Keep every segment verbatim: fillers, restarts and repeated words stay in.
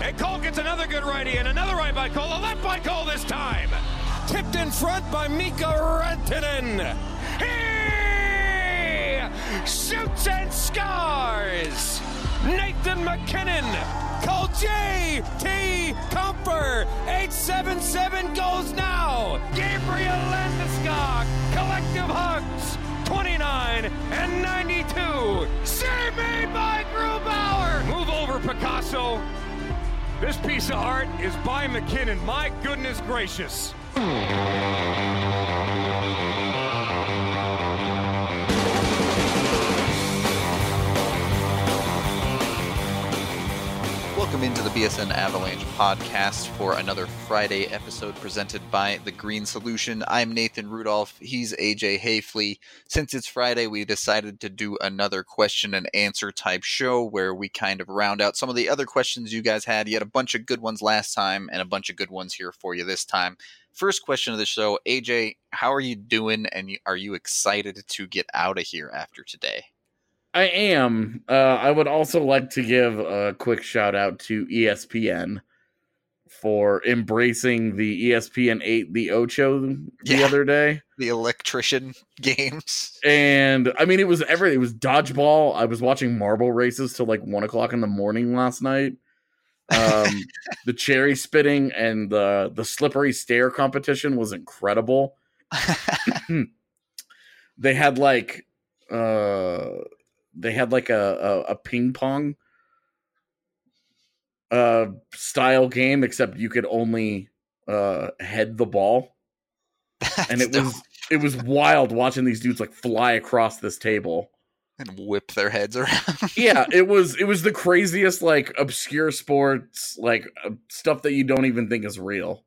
And Cole gets another good righty, and another right by Cole. A left by Cole this time. Tipped in front by Mika Rantanen. He shoots and scores. Nathan MacKinnon. Cole J T Comfer. eight seven seven goes now. Gabriel Landeskog. Collective hugs. twenty-nine and ninety-two. Save made by Grubauer. Move over, Picasso. This piece of art is by McKinnon. My goodness gracious. Welcome into the B S N Avalanche podcast for another Friday episode presented by The Green Solution. I'm Nathan Rudolph. He's A J Hayfley. Since it's Friday, we decided to do another question and answer type show where we kind of round out some of the other questions you guys had. You had a bunch of good ones last time and a bunch of good ones here for you this time. First question of the show, A J, how are you doing, and are you excited to get out of here after today? I am. Uh, I would also like to give a quick shout out to E S P N for embracing the E S P N eight, the Ocho, the yeah, other day. The electrician games. And, I mean, it was everything. It was dodgeball. I was watching marble races till like one o'clock in the morning last night. Um, the cherry spitting and the, the slippery stair competition was incredible. They had like... Uh, They had like a, a, a ping pong uh, style game, except you could only uh, head the ball. That's and it dope. was it was wild watching these dudes like fly across this table And whip their heads around. yeah, it was it was the craziest, like, obscure sports, like uh, stuff that you don't even think is real.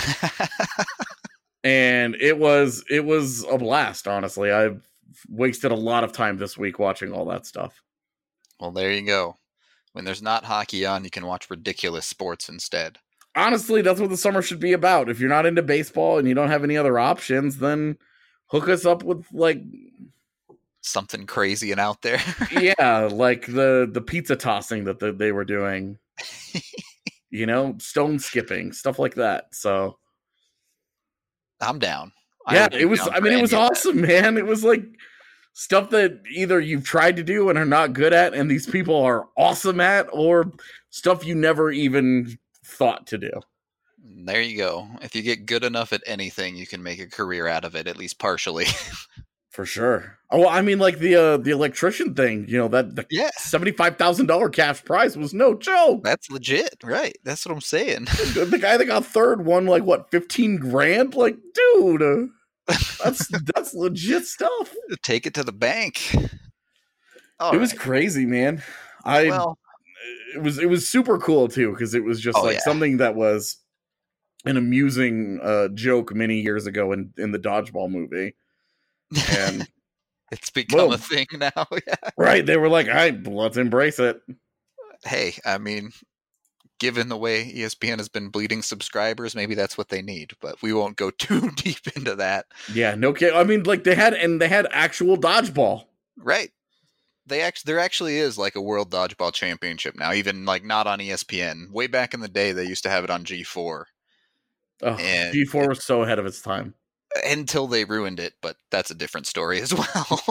And it was it was a blast, honestly. I've wasted a lot of time this week watching all that stuff. Well, there you go. When there's not hockey on, you can watch ridiculous sports instead. Honestly, that's what the summer should be about. If you're not into baseball and you don't have any other options, then hook us up with, like... something crazy and out there. yeah, like the, the pizza tossing that the, they were doing. You know, stone skipping, stuff like that. So... I'm down. Yeah, it was, I mean, it was awesome, that. man. It was like stuff that either you've tried to do and are not good at, and these people are awesome at, or stuff you never even thought to do. There you go. If you get good enough at anything, you can make a career out of it, at least partially. For sure. Oh, well, I mean, like the uh, the electrician thing, you know, that the yeah. seventy-five thousand dollars cash prize was no joke. That's legit, right? That's what I'm saying. the, the guy that got third won like what, fifteen grand? Like, dude, uh, that's that's legit stuff. Take it to the bank. All it right. was crazy, man. I well, it was it was super cool too, because it was just oh, like yeah. something that was an amusing uh, joke many years ago in in the Dodgeball movie. And it's become boom. a thing now. Yeah. Right. They were like, all right, let's embrace it. Hey, I mean, given the way E S P N has been bleeding subscribers, maybe that's what they need, but we won't go too deep into that. Yeah, no kidding. I mean, like they had, and they had actual dodgeball. Right. They actually, there actually is like a World Dodgeball Championship now, even like not on E S P N. Way back in the day, they used to have it on G four. Oh, and G four it, was so ahead of its time. Until they ruined it, but that's a different story as well.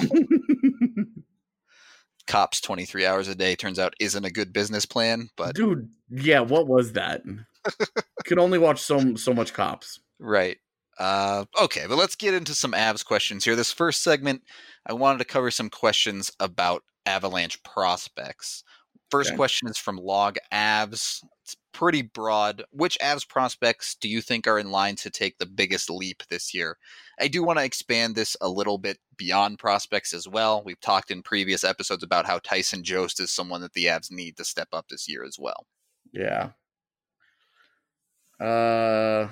Cops twenty-three hours a day turns out isn't a good business plan, but dude, yeah, what was that? Could only watch so so much Cops. Right. Uh, okay, but let's get into some Avs questions here. This first segment, I wanted to cover some questions about Avalanche prospects. First okay. question is from Log Avs. It's pretty broad. Which Avs prospects do you think are in line to take the biggest leap this year? I do want to expand this a little bit beyond prospects as well. We've talked in previous episodes about how Tyson Jost is someone that the Avs need to step up this year as well. Yeah. Uh.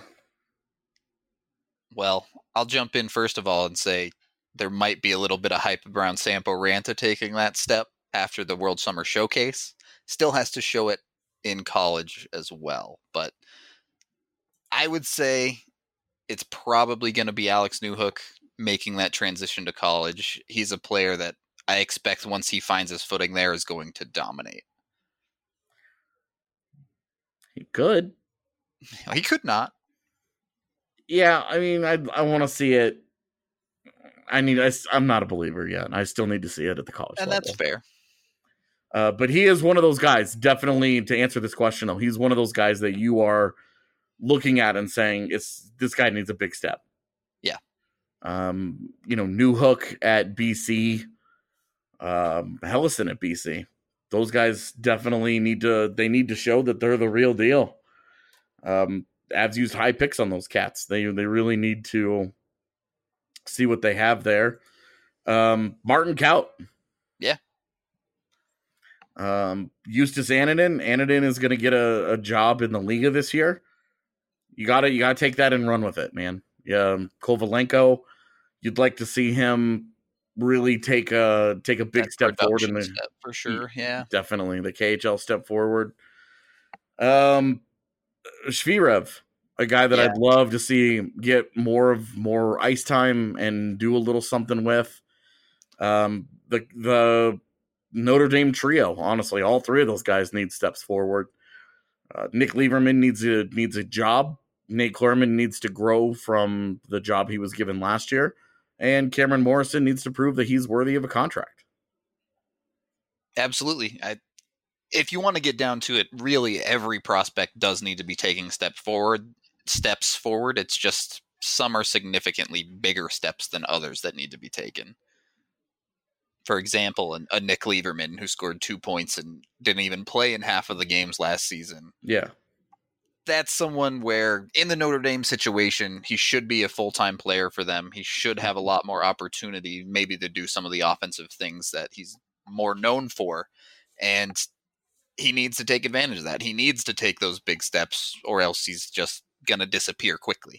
Well, I'll jump in first of all and say there might be a little bit of hype around Sampo Ranta taking that step after the World Summer Showcase. Still has to show it in college as well, but I would say it's probably going to be Alex Newhook making that transition to college. He's a player that I expect once he finds his footing there is going to dominate. He could. He could not. Yeah, I mean, I I want to see it. I need. I, I'm not a believer yet. I still need to see it at the college And level. that's fair. Uh, but he is one of those guys. Definitely, to answer this question, though, he's one of those guys that you are looking at and saying, "It's this guy needs a big step." Yeah. Um, you know, New Hook at B C, um, Hellison at B C. Those guys definitely need to. They need to show that they're the real deal. Um, Avs used high picks on those cats. They they really need to see what they have there. Um, Martin Kaut. Yeah. Um, Eustace Anadin. Anadin is going to get a, a job in the Liga this year. You gotta you gotta take that and run with it, man. Yeah, um, Kovalenko. You'd like to see him really take a take a big That step forward in the step for sure. Yeah, definitely the K H L step forward. Um, Shvirev, a guy that Yeah. I'd love to see get more of more ice time and do a little something with. Um, the the Notre Dame trio, honestly, all three of those guys need steps forward. Uh, Nick Lieberman needs a needs a job. Nate Klurman needs to grow from the job he was given last year, and Cameron Morrison needs to prove that he's worthy of a contract. absolutely. I, if you want to get down to it, really every prospect does need to be taking step forward, steps forward. It's just some are significantly bigger steps than others that need to be taken. For example, an, a Nick Lieberman who scored two points and didn't even play in half of the games last season. Yeah. That's someone where, in the Notre Dame situation, he should be a full-time player for them. He should have a lot more opportunity, maybe to do some of the offensive things that he's more known for. And he needs to take advantage of that. He needs to take those big steps, or else he's just going to disappear quickly.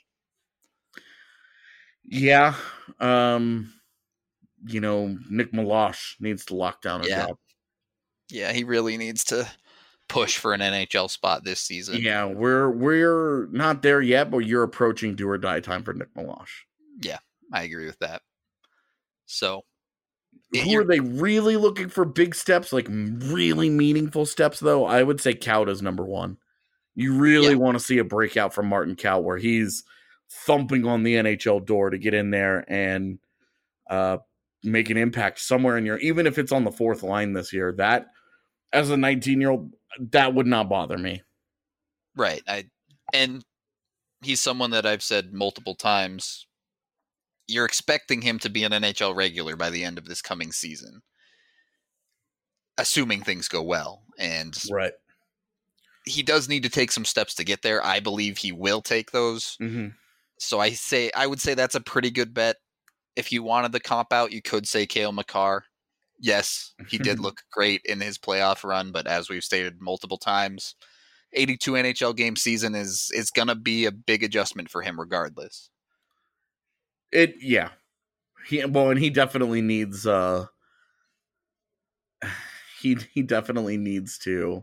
Yeah. Um, you know, Nick Meloche needs to lock down a Yeah. job. Yeah, he really needs to push for an N H L spot this season. Yeah, we're we're not there yet, but you're approaching do or die time for Nick Meloche. Yeah, I agree with that. So, who you're- are they really looking for big steps, like really meaningful steps, though? I would say Kaut is number one. You really Yeah. want to see a breakout from Martin Kaut where he's thumping on the N H L door to get in there and uh, make an impact somewhere in your, even if it's on the fourth line this year. That, as a nineteen-year-old, that would not bother me. Right. I and he's someone that I've said multiple times. You're expecting him to be an N H L regular by the end of this coming season, assuming things go well. And Right. he does need to take some steps to get there. I believe he will take those. Mm-hmm. So I say I would say that's a pretty good bet. If you wanted the cop out, you could say Cale Makar. Yes, he did look great in his playoff run, but as we've stated multiple times, eighty-two N H L game season is is going to be a big adjustment for him regardless. It yeah. He well, and he definitely needs uh he he definitely needs to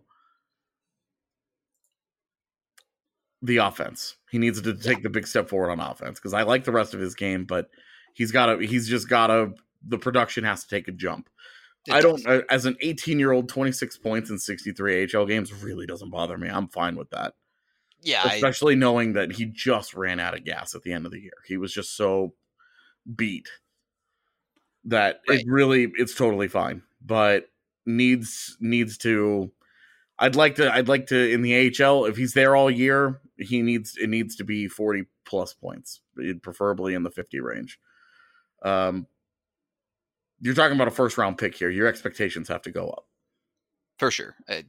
the offense. He needs to take the big step forward on offense because I like the rest of his game, but he's got to he's just got to the production has to take a jump. It I don't does. uh, as an eighteen-year-old, twenty-six points in sixty-three A H L games really doesn't bother me. I'm fine with that. Yeah, I, Especially knowing that he just ran out of gas at the end of the year. He was just so beat that Right. it really it's totally fine, but needs needs to I'd like to I'd like to in the A H L if he's there all year, he needs it needs to be forty plus points, preferably in the fifty range. Um you're talking about a first round pick here. Your expectations have to go up. for sure. I,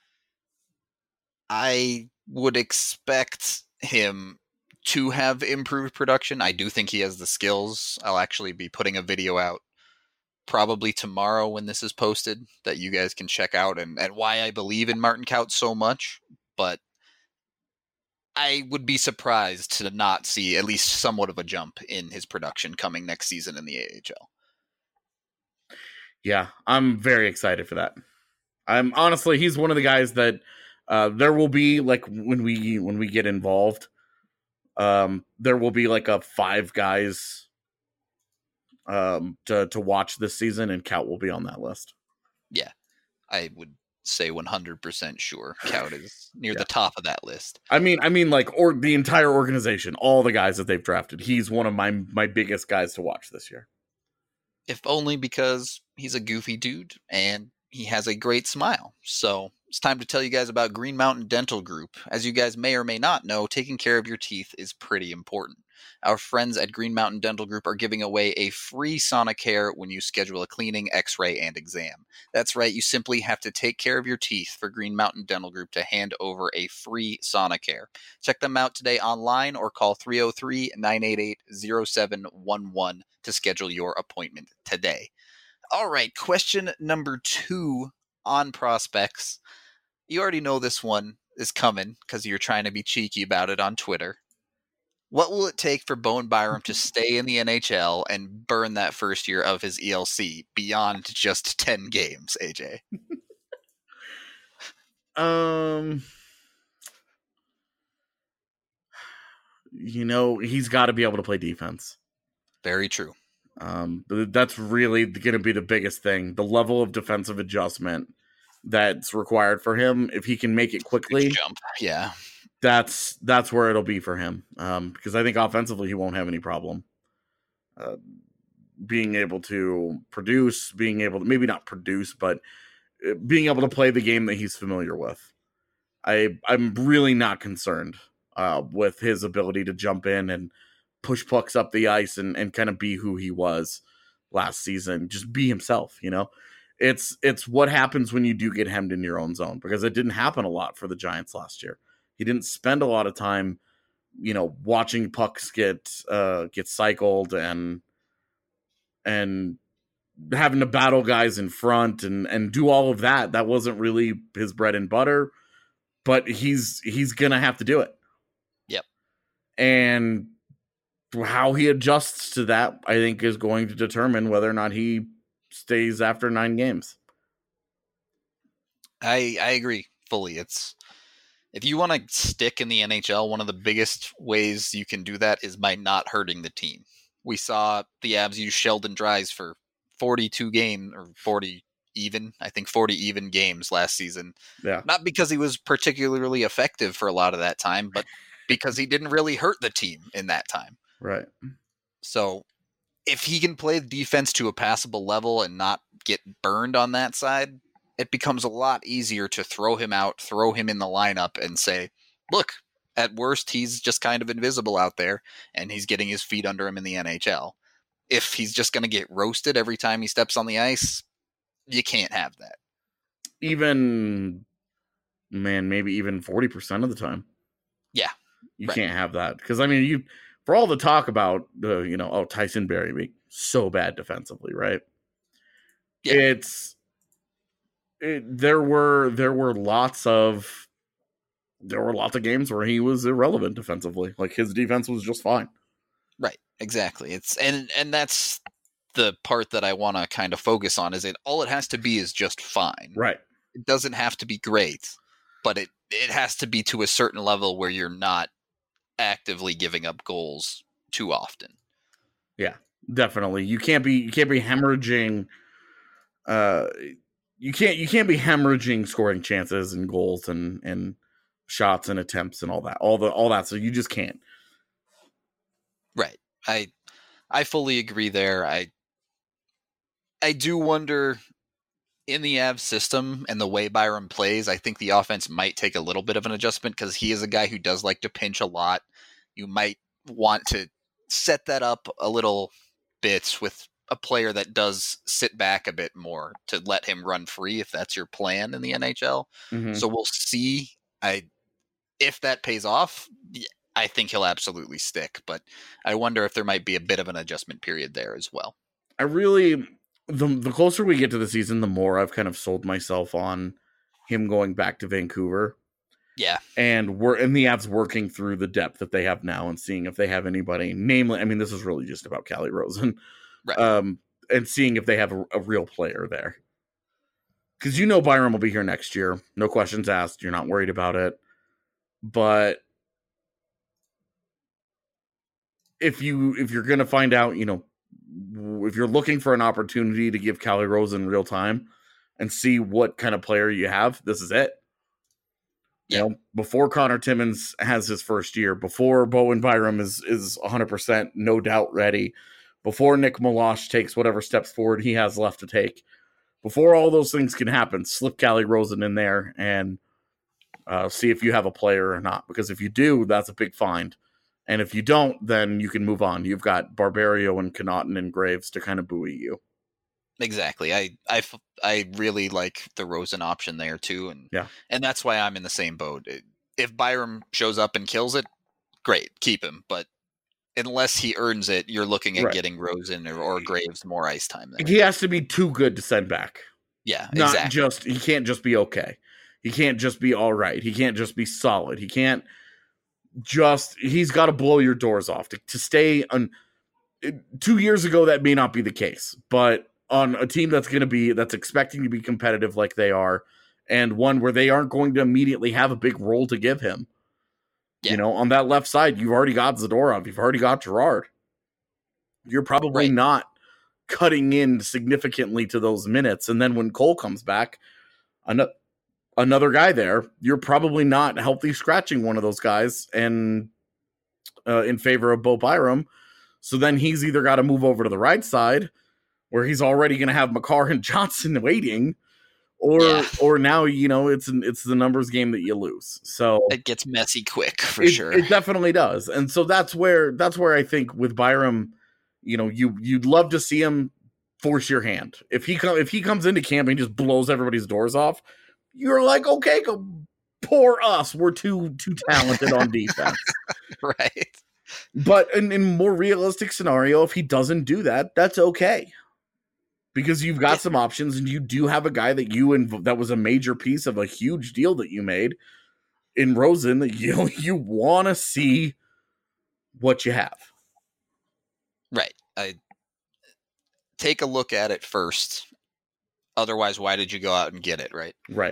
I would expect him to have improved production. I do think he has the skills. I'll actually be putting a video out probably tomorrow when this is posted that you guys can check out and, and why I believe in Martin Kaut so much. But I would be surprised to not see at least somewhat of a jump in his production coming next season in the A H L. Yeah, I'm very excited for that. I'm honestly, he's one of the guys that uh, there will be like when we when we get involved, um, there will be like a five guys um, to to watch this season, and Kaut will be on that list. I would say one hundred percent sure Kaut is near Yeah. the top of that list. I mean, I mean, like, or the entire organization, all the guys that they've drafted. He's one of my my biggest guys to watch this year. If only because he's a goofy dude and he has a great smile. So it's time to tell you guys about Green Mountain Dental Group. As you guys may or may not know, taking care of your teeth is pretty important. Our friends at Green Mountain Dental Group are giving away a free Sonicare when you schedule a cleaning, x-ray, and exam. That's right, you simply have to take care of your teeth for Green Mountain Dental Group to hand over a free Sonicare. Check them out today online or call three oh three, nine eight eight, oh seven one one to schedule your appointment today. All right, question number two on prospects. You already know this one is coming because you're trying to be cheeky about it on Twitter. What will it take for Bowen Byram to stay in the N H L and burn that first year of his E L C beyond just ten games, A J? um, you know, he's got to be able to play defense. Very true. Um, that's really going to be the biggest thing. The level of defensive adjustment that's required for him. If he can make it quickly, jump. Yeah. That's that's where it'll be for him, um, because I think offensively he won't have any problem uh, being able to produce, being able to maybe not produce, but being able to play the game that he's familiar with. I I'm really not concerned uh, with his ability to jump in and push pucks up the ice and, and kind of be who he was last season. Just be himself, you know. It's it's what happens when you do get hemmed in your own zone, because it didn't happen a lot for the Giants last year. He didn't spend a lot of time, you know, watching pucks get uh, get cycled and and having to battle guys in front and, and do all of that. That wasn't really his bread and butter, but he's he's gonna have to do it. Yep. And how he adjusts to that, I think, is going to determine whether or not he stays after nine games. I I agree fully. It's if you want to stick in the N H L, one of the biggest ways you can do that is by not hurting the team. We saw the Avs use Sheldon Dries for forty-two games or forty even, I think forty even games last season. Yeah. Not because he was particularly effective for a lot of that time, but because he didn't really hurt the team in that time. Right. So if he can play defense to a passable level and not get burned on that side, it becomes a lot easier to throw him out, throw him in the lineup and say, look, at worst, he's just kind of invisible out there and he's getting his feet under him in the N H L. If he's just going to get roasted every time he steps on the ice, you can't have that. Even, man, maybe even forty percent of the time. Yeah. You right. can't have that. Because, I mean, you for all the talk about, uh, you know, oh, Tyson Barrie being so bad defensively, right? Yeah. It's, it, there were, there were lots of, there were lots of games where he was irrelevant defensively. Like, his defense was just fine. Right. Exactly. It's, and, and that's the part that I want to kind of focus on is it all it has to be is just fine. Right. It doesn't have to be great, but it, it has to be to a certain level where you're not actively giving up goals too often. Yeah, definitely. You can't be you can't be hemorrhaging uh you can't you can't be hemorrhaging scoring chances and goals and and shots and attempts and all that. All the all that so you just can't. Right. I I fully agree there. I I do wonder in the Avs system and the way Byram plays, I think the offense might take a little bit of an adjustment because he is a guy who does like to pinch a lot. You might want to set that up a little bit with a player that does sit back a bit more to let him run free if that's your plan in the N H L. Mm-hmm. So we'll see. I if that pays off, I think he'll absolutely stick. But I wonder if there might be a bit of an adjustment period there as well. I really... The the closer we get to the season, the more I've kind of sold myself on him going back to Vancouver. Yeah. And we're in the Avs working through the depth that they have now and seeing if they have anybody, namely, I mean, this is really just about Calle Rosen. Right. Um, and seeing if they have a, a real player there. Because you know Byram will be here next year. No questions asked. You're not worried about it. But if you if you're gonna find out, you know, if you're looking for an opportunity to give Calle Rosen real time, and see what kind of player you have, this is it. Yeah. You know, before Connor Timmins has his first year, before Bowen Byram is is one hundred percent no doubt ready, before Nick Meloche takes whatever steps forward he has left to take, before all those things can happen, slip Calle Rosen in there and uh, see if you have a player or not. Because if you do, that's a big find. And if you don't, then you can move on. You've got Barberio and Connaughton and Graves to kind of buoy you. Exactly. I, I, I really like the Rosen option there too. And yeah. and that's why I'm in the same boat. If Byram shows up and kills it, great, keep him. But unless he earns it, you're looking at right. getting Rosen or, or Graves more ice time there. He has to be too good to send back. Yeah, Not exactly. just, he can't just be okay. He can't just be all right. He can't just be solid. He can't just, he's got to blow your doors off to, to stay on. Two years ago, that may not be the case, but on a team that's going to be, that's expecting to be competitive like they are, and one where they aren't going to immediately have a big role to give him. Yeah. You know, on that left side, you've already got Zadorov. You've already got Girard. You're probably right. not cutting in significantly to those minutes. And then when Cole comes back, an- another guy there, you're probably not healthy scratching one of those guys and uh, in favor of Bo Byram. So then he's either got to move over to the right side where he's already going to have Makar and Johnson waiting, or yeah. or now, you know, it's an, it's the numbers game that you lose. So it gets messy quick for it, sure. It definitely does. And so that's where that's where I think with Byram, you know, you you'd love to see him force your hand. If he com- if he comes into camp and just blows everybody's doors off, you're like, okay, go poor us. We're too too talented on defense. Right. But in a more realistic scenario, if he doesn't do that, that's okay. Because you've got some options, and you do have a guy that you inv- that was a major piece of a huge deal that you made in Rosen that you you want to see what you have. Right. I take a look at it first. Otherwise, why did you go out and get it? Right. Right.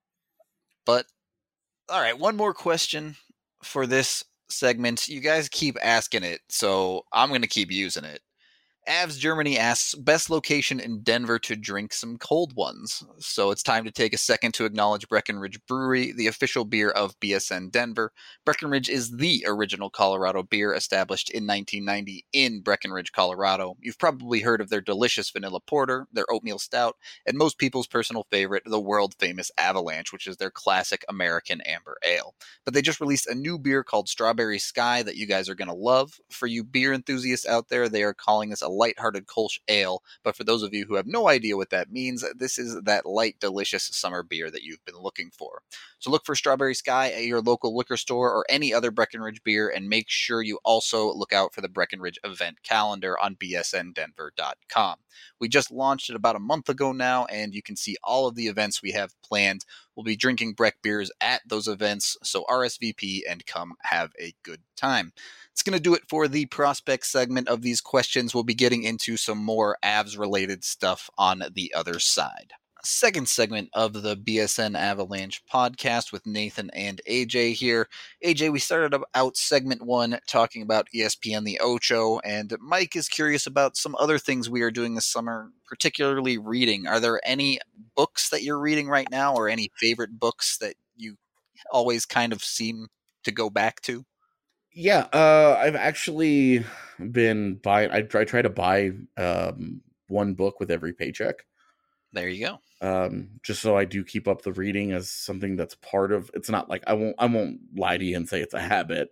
But all right, one more question for this segment. You guys keep asking it, so I'm going to keep using it. Avs Germany asks, best location in Denver to drink some cold ones. So it's time to take a second to acknowledge Breckenridge Brewery, the official beer of B S N Denver. Breckenridge is the original Colorado beer established in nineteen ninety in Breckenridge, Colorado. You've probably heard of their delicious vanilla porter, their oatmeal stout, and most people's personal favorite, the world-famous Avalanche, which is their classic American amber ale. But they just released a new beer called Strawberry Sky that you guys are going to love. For you beer enthusiasts out there, they are calling this a lighthearted Kolsch ale, but for those of you who have no idea what that means, this is that light, delicious summer beer that you've been looking for. So look for Strawberry Sky at your local liquor store or any other Breckenridge beer, and make sure you also look out for the Breckenridge event calendar on b s n denver dot com. We just launched it about a month ago now, and you can see all of the events we have planned. We'll be drinking Breck beers at those events, so R S V P and come have a good time. It's going to do it for the prospect segment of these questions. We'll be getting into some more Avs-related stuff on the other side. Second segment of the B S N Avalanche podcast with Nathan and A J here. A J, we started out segment one talking about E S P N The Ocho, and Mike is curious about some other things we are doing this summer, particularly reading. Are there any books that you're reading right now, or any favorite books that you always kind of seem to go back to? Yeah, uh, I've actually been buying, I try, try to buy um, one book with every paycheck. There you go. Um, just so I do keep up the reading as something that's part of, it's not like, I won't, I won't lie to you and say it's a habit,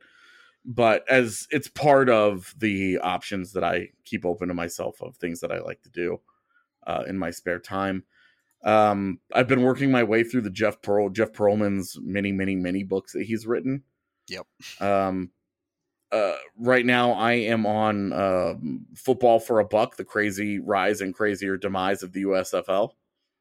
but as it's part of the options that I keep open to myself of things that I like to do uh, in my spare time. Um, I've been working my way through the Jeff Pearl, Jeff Pearlman's many, many, many books that he's written. Yep. Um, Uh, right now, I am on uh, Football for a Buck, the crazy rise and crazier demise of the U S F L.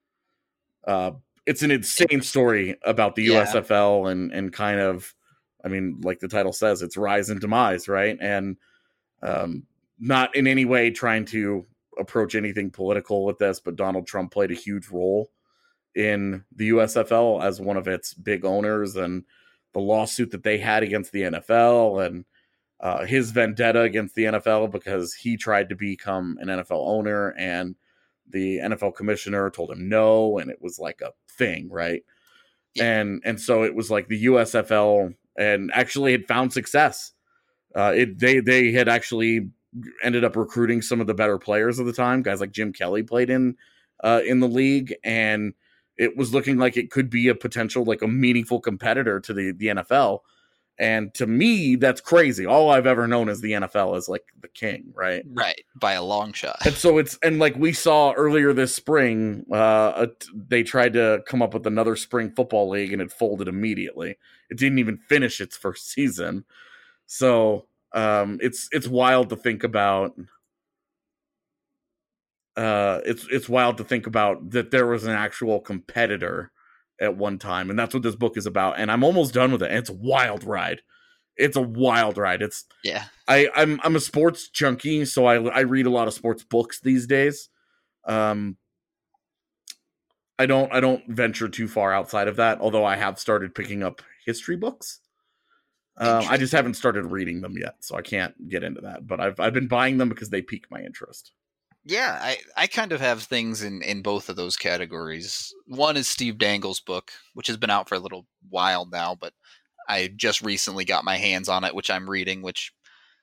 Uh, it's an insane story about the yeah. U S F L and, and kind of, I mean, like the title says, it's rise and demise, right? And um, not in any way trying to approach anything political with this, but Donald Trump played a huge role in the U S F L as one of its big owners, and the lawsuit that they had against the N F L, and Uh, his vendetta against the N F L because he tried to become an N F L owner, and the N F L commissioner told him no, and it was like a thing, right? Yeah. And and so it was like the U S F L and actually had found success. Uh, it they they had actually ended up recruiting some of the better players of the time. Guys like Jim Kelly played in uh, in the league, and it was looking like it could be a potential, like a meaningful competitor to the, the N F L. And to me, that's crazy. All I've ever known is the N F L is like the king, right? Right, by a long shot. And so it's, and like we saw earlier this spring, uh, they tried to come up with another spring football league and it folded immediately. It didn't even finish its first season. So um, it's it's wild to think about. Uh, it's it's wild to think about that there was an actual competitor at one time, and that's what this book is about. And I'm almost done with it. And it's a wild ride. It's a wild ride. It's yeah. I I'm I'm a sports junkie, so I I read a lot of sports books these days. Um, I don't I don't venture too far outside of that. Although I have started picking up history books. Um, I just haven't started reading them yet, so I can't get into that. But I've I've been buying them because they pique my interest. Yeah, I, I kind of have things in, in both of those categories. One is Steve Dangle's book, which has been out for a little while now, but I just recently got my hands on it, which I'm reading, which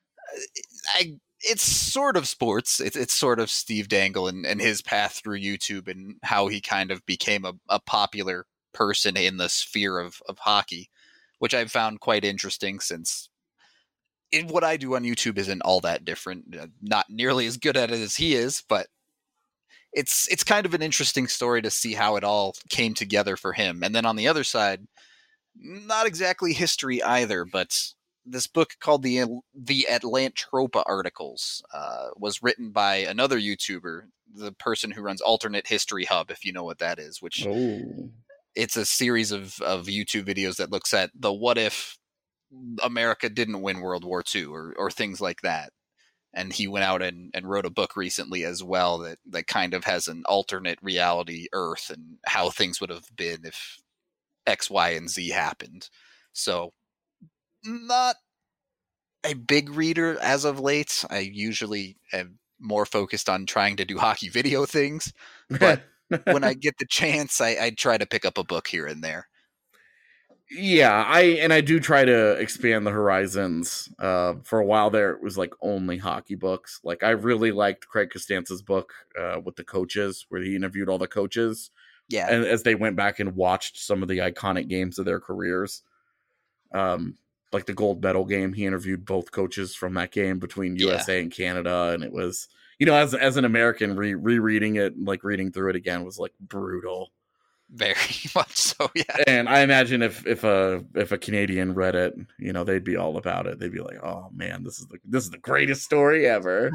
I it's sort of sports. It's it's sort of Steve Dangle and, and his path through YouTube and how he kind of became a, a popular person in the sphere of, of hockey, which I've found quite interesting since it, what I do on YouTube isn't all that different. Uh, not nearly as good at it as he is, but it's it's kind of an interesting story to see how it all came together for him. And then on the other side, not exactly history either, but this book called the the Atlantropa Articles uh, was written by another YouTuber, the person who runs Alternate History Hub, if you know what that is, which oh. It's a series of, of YouTube videos that looks at the what if America didn't win World War Two or, or things like that. And he went out and, and wrote a book recently as well that, that kind of has an alternate reality Earth and how things would have been if X, Y, and Z happened. So not a big reader as of late. I usually am more focused on trying to do hockey video things, but when I get the chance, I, I try to pick up a book here and there. Yeah, I and I do try to expand the horizons. Uh, for a while there, it was like only hockey books. Like I really liked Craig Costanza's book uh, with the coaches, where he interviewed all the coaches. Yeah, and as they went back and watched some of the iconic games of their careers, um, like the gold medal game, he interviewed both coaches from that game between U S A yeah. and Canada, and it was, you know, as as an American, re- rereading it, like reading through it again, was like brutal. Very much so, yeah. And I imagine if if a if a Canadian read it, you know, they'd be all about it. They'd be like, "Oh man, this is the this is the greatest story ever."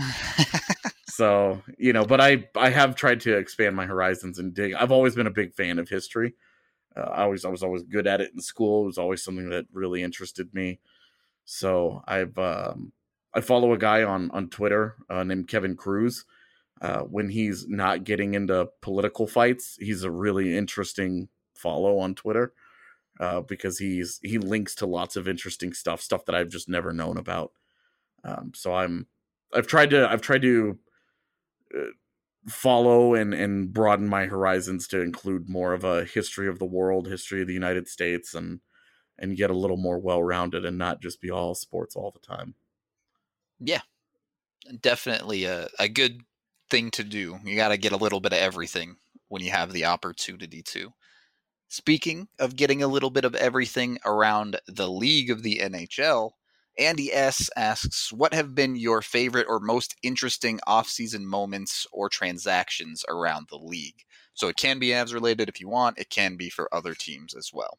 So, you know, but I I have tried to expand my horizons and dig. I've always been a big fan of history. Uh, I always I was always good at it in school. It was always something that really interested me. So I've um, I follow a guy on on Twitter uh, named Kevin Cruz. Uh, when he's not getting into political fights, he's a really interesting follow on Twitter uh, because he's he links to lots of interesting stuff, stuff that I've just never known about. Um, so I'm I've tried to I've tried to uh, follow and and broaden my horizons to include more of a history of the world, history of the United States, and and get a little more well-rounded and not just be all sports all the time. Yeah, definitely a, a good thing to do. You got to get a little bit of everything when you have the opportunity to. Speaking of getting a little bit of everything around the league of the N H L, Andy S. asks, what have been your favorite or most interesting off-season moments or transactions around the league? So it can be Avs related if you want. It can be for other teams as well.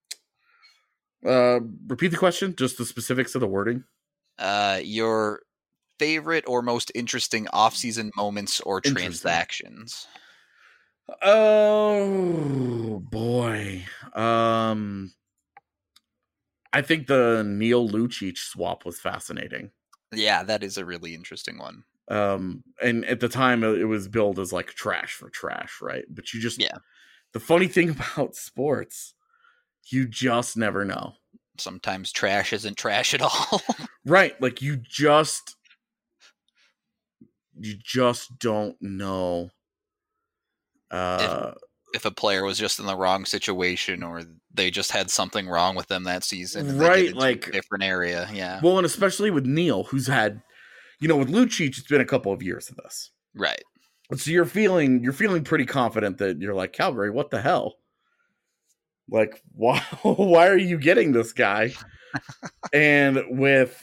Uh, repeat the question, just the specifics of the wording. Uh, your favorite or most interesting off-season moments or transactions? Oh boy. Um I think the Neil Lucic swap was fascinating. Yeah, that is a really interesting one. Um and at the time it was billed as like trash for trash, right? But you just yeah. The funny thing about sports, you just never know. Sometimes trash isn't trash at all. Right, like you just you just don't know Uh, if, if a player was just in the wrong situation or they just had something wrong with them that season, and right? they get into like a different area, yeah. Well, and especially with Neal, who's had, you know, with Lucic, it's been a couple of years of this, right? So you're feeling you're feeling pretty confident that you're like, Calgary, what the hell? Like, why why are you getting this guy? And with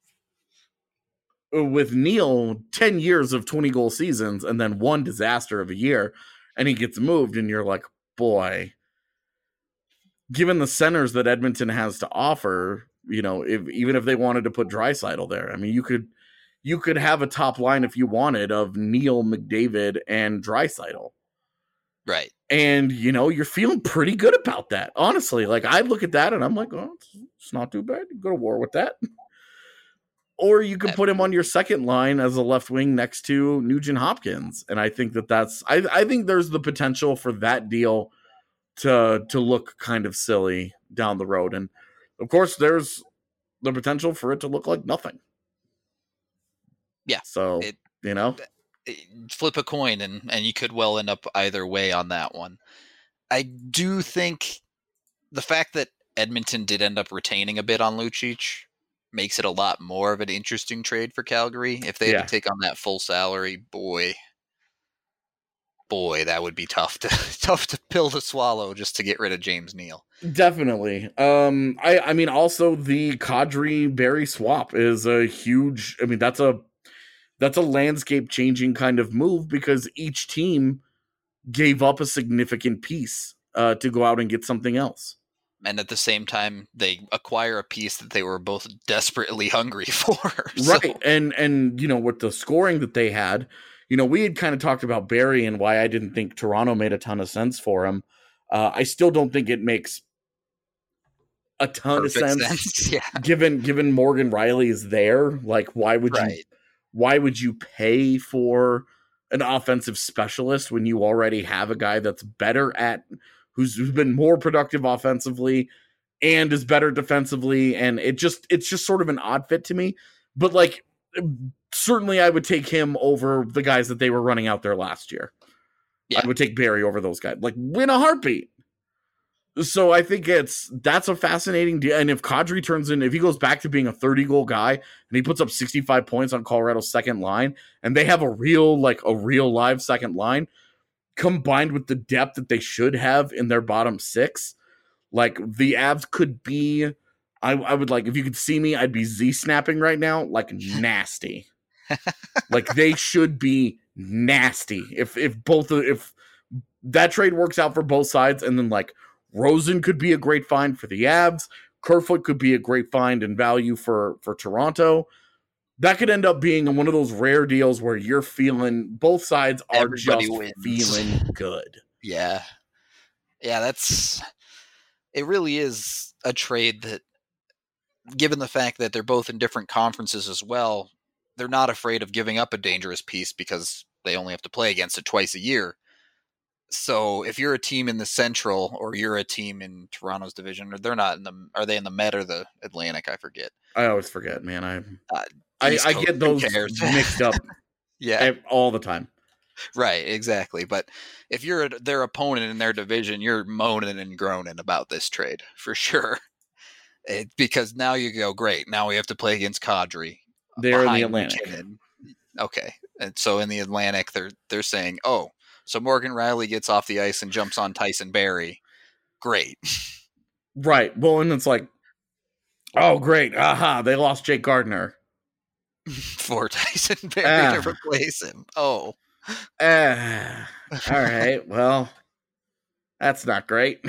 with Neal, ten years of twenty goal seasons and then one disaster of a year, and he gets moved, and you're like, boy, given the centers that Edmonton has to offer, you know, if even if they wanted to put Draisaitl there, I mean, you could you could have a top line if you wanted of Neal, McDavid, and Draisaitl. Right. And, you know, you're feeling pretty good about that. Honestly, like, I look at that and I'm like, oh, it's, it's not too bad. You go to war with that. Or you could put him on your second line as a left wing next to Nugent Hopkins. And I think that that's, I, I think there's the potential for that deal to, to look kind of silly down the road. And of course, there's the potential for it to look like nothing. Yeah. So, it, you know, flip a coin and, and you could well end up either way on that one. I do think the fact that Edmonton did end up retaining a bit on Lucic makes it a lot more of an interesting trade for Calgary. If they Yeah. had to take on that full salary, boy, boy, that would be tough to tough to pill to swallow just to get rid of James Neal. Definitely. Um, I, I mean, also the Kadri Barry swap is a huge, I mean, that's a, that's a landscape changing kind of move because each team gave up a significant piece uh, to go out and get something else. And at the same time, they acquire a piece that they were both desperately hungry for. So. Right. And, and, you know, with the scoring that they had, you know, we had kind of talked about Barry and why I didn't think Toronto made a ton of sense for him. Uh, I still don't think it makes a ton Perfect of sense, sense. Yeah. given given Morgan Riley is there. Like, why would Right. you why would you pay for an offensive specialist when you already have a guy that's better at who's, who's been more productive offensively and is better defensively? And it just it's just sort of an odd fit to me. But like, certainly I would take him over the guys that they were running out there last year. Yeah. I would take Barry over those guys, like, win a heartbeat. So I think it's that's a fascinating deal. And if Kadri turns in, if he goes back to being a thirty goal guy and he puts up sixty-five points on Colorado's second line, and they have a real, like a real live second line, combined with the depth that they should have in their bottom six, like the Avs could be, I, I would like, if you could see me, I'd be Z snapping right now, like nasty. Like they should be nasty. If, if both, if that trade works out for both sides, and then like, Rosen could be a great find for the Avs. Kerfoot could be a great find and value for, for Toronto. That could end up being one of those rare deals where you're feeling both sides are Everybody just wins. feeling good. Yeah. Yeah, that's it really is a trade that, given the fact that they're both in different conferences as well, they're not afraid of giving up a dangerous piece because they only have to play against it twice a year. So if you're a team in the Central or you're a team in Toronto's division, or they're not in the, are they in the Met or the Atlantic? I forget. I always forget, man. I Uh, I, East I Coast, get who those cares? mixed up Yeah, ev- all the time. right, exactly. But if you're a, their opponent in their division, you're moaning and groaning about this trade for sure. It, because now you go, great. Now we have to play against Kadri. They're in the behind Atlantic. McKinnon. Okay, and so in the Atlantic, they're they're saying, oh. So Morgan Riley gets off the ice and jumps on Tyson Barrie. Great. Right. Well, and it's like, oh, great. Aha, they lost Jake Gardiner. For Tyson Barrie Ah. to replace him. Oh. Uh, all right. Well, that's not great.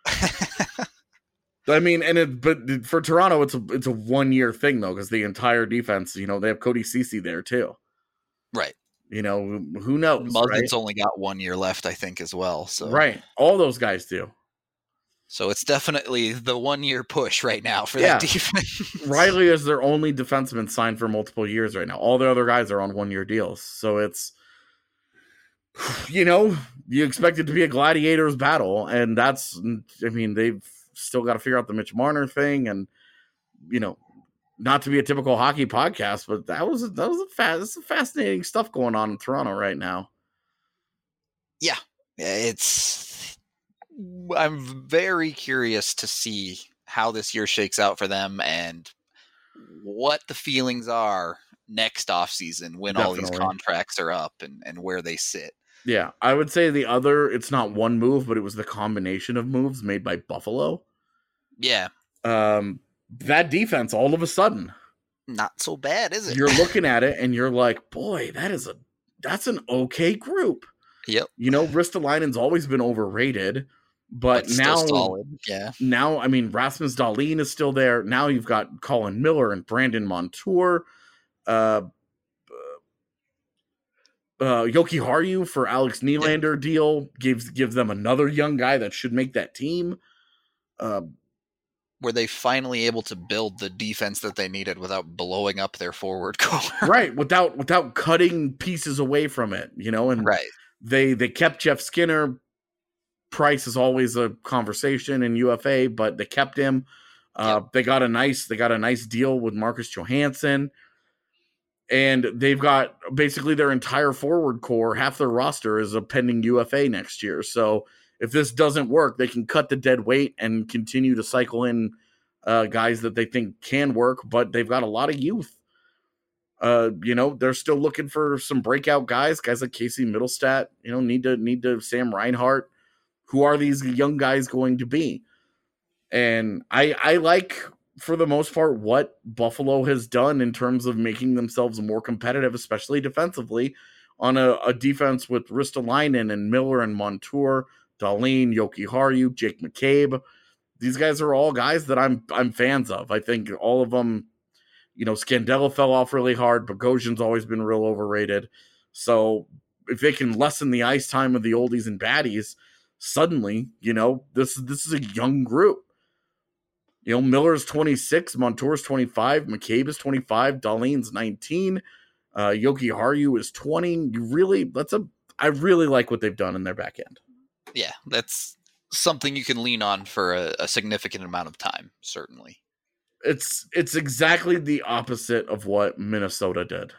I mean, and it, but for Toronto, it's a it's a one year thing though, because the entire defense, you know, they have Cody Ceci there too. Right. You know, who knows? Muzzin's Right? only got one year left, I think, as well. So Right. All those guys do. So it's definitely the one year push right now for Yeah. that defense. Riley is their only defenseman signed for multiple years right now. All the other guys are on one year deals. So it's, you know, you expect it to be a gladiators battle. And that's, I mean, they've still got to figure out the Mitch Marner thing. And, you know, not to be a typical hockey podcast, but that was, that was a fast, fascinating stuff going on in Toronto right now. Yeah. It's I'm very curious to see how this year shakes out for them and what the feelings are next offseason when all these Definitely. contracts are up and, and where they sit. Yeah, I would say the other, it's not one move, but it was the combination of moves made by Buffalo. Yeah. Um, that defense, all of a sudden, not so bad, is it? You're looking at it and you're like, boy, that is a that's an okay group. Yep. You know, Ristolainen's always been overrated, but, but now, solid. Yeah. Now, I mean, Rasmus Dahlin is still there. Now you've got Colin Miller and Brandon Montour. Uh, uh, Yoki Haru for Alex Nylander yep. deal gives gives them another young guy that should make that team. Uh, Were they finally able to build the defense that they needed without blowing up their forward core? Right, without without cutting pieces away from it, you know, and right. they they kept Jeff Skinner. Price is always a conversation in U F A, but they kept him. Uh, yep. They got a nice they got a nice deal with Marcus Johansson. And they've got basically their entire forward core, half their roster is a pending U F A next year. So if this doesn't work, they can cut the dead weight and continue to cycle in uh, guys that they think can work, but they've got a lot of youth. Uh, you know, they're still looking for some breakout guys, guys like Casey Middlestat, you know, need to need to Sam Reinhart. Who are these young guys going to be? And I I like, for the most part, what Buffalo has done in terms of making themselves more competitive, especially defensively, on a, a defense with Ristolainen and Miller and Montour, Dahlin, Yoki Haru, Jake McCabe. These guys are all guys that I'm I'm fans of. I think all of them, you know, Scandella fell off really hard. Bogosian's always been real overrated. So if they can lessen the ice time of the oldies and baddies, suddenly, you know, this this is a young group. You know, Miller's twenty-six, Montour's twenty-five, McCabe is twenty-five, Dahlin's nineteen, uh, Yoki Haru is twenty. You really, that's a, I really like what they've done in their back end. Yeah, that's something you can lean on for a, a significant amount of time, certainly. It's it's exactly the opposite of what Minnesota did.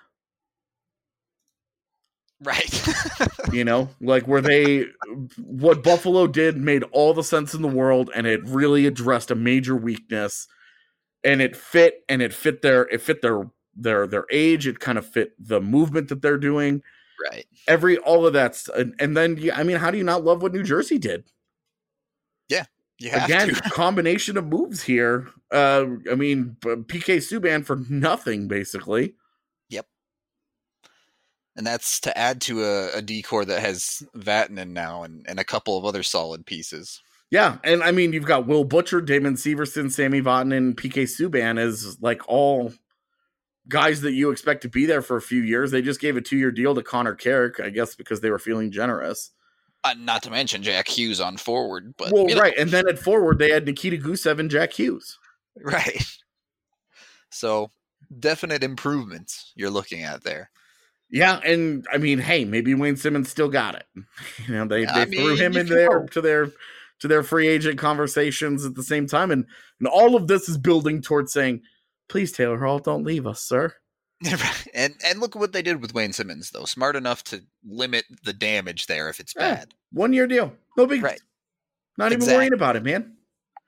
Right. You know, like where they, what Buffalo did made all the sense in the world, and it really addressed a major weakness, and it fit, and it fit their, it fit their, their, their age. It kind of fit the movement that they're doing. Right. Every, all of that's, and, and then, I mean, how do you not love what New Jersey did? Yeah. You have Again, to. Combination of moves here. Uh, I mean, P K Subban for nothing, basically. Yep. And that's to add to a, a D-core that has Vatanen now and, and a couple of other solid pieces. Yeah, and I mean, you've got Will Butcher, Damon Severson, Sammy Vatanen, P K Subban as like all guys that you expect to be there for a few years. They just gave a two-year deal to Connor Carrick, I guess because they were feeling generous. Uh, not to mention Jack Hughes on forward. But Well, you know. right, and then at forward, they had Nikita Gusev and Jack Hughes. Right. So, definite improvements you're looking at there. Yeah, and I mean, hey, maybe Wayne Simmons still got it. You know, they, they I threw mean, him you in can there hope. to their to their free agent conversations at the same time, and, and all of this is building towards saying, "Please, Taylor Hall, don't leave us, sir." and and look at what they did with Wayne Simmons, though. Smart enough to limit the damage there if it's Yeah, bad. one year deal, no big, Right. Not even Exactly. worrying about it, man.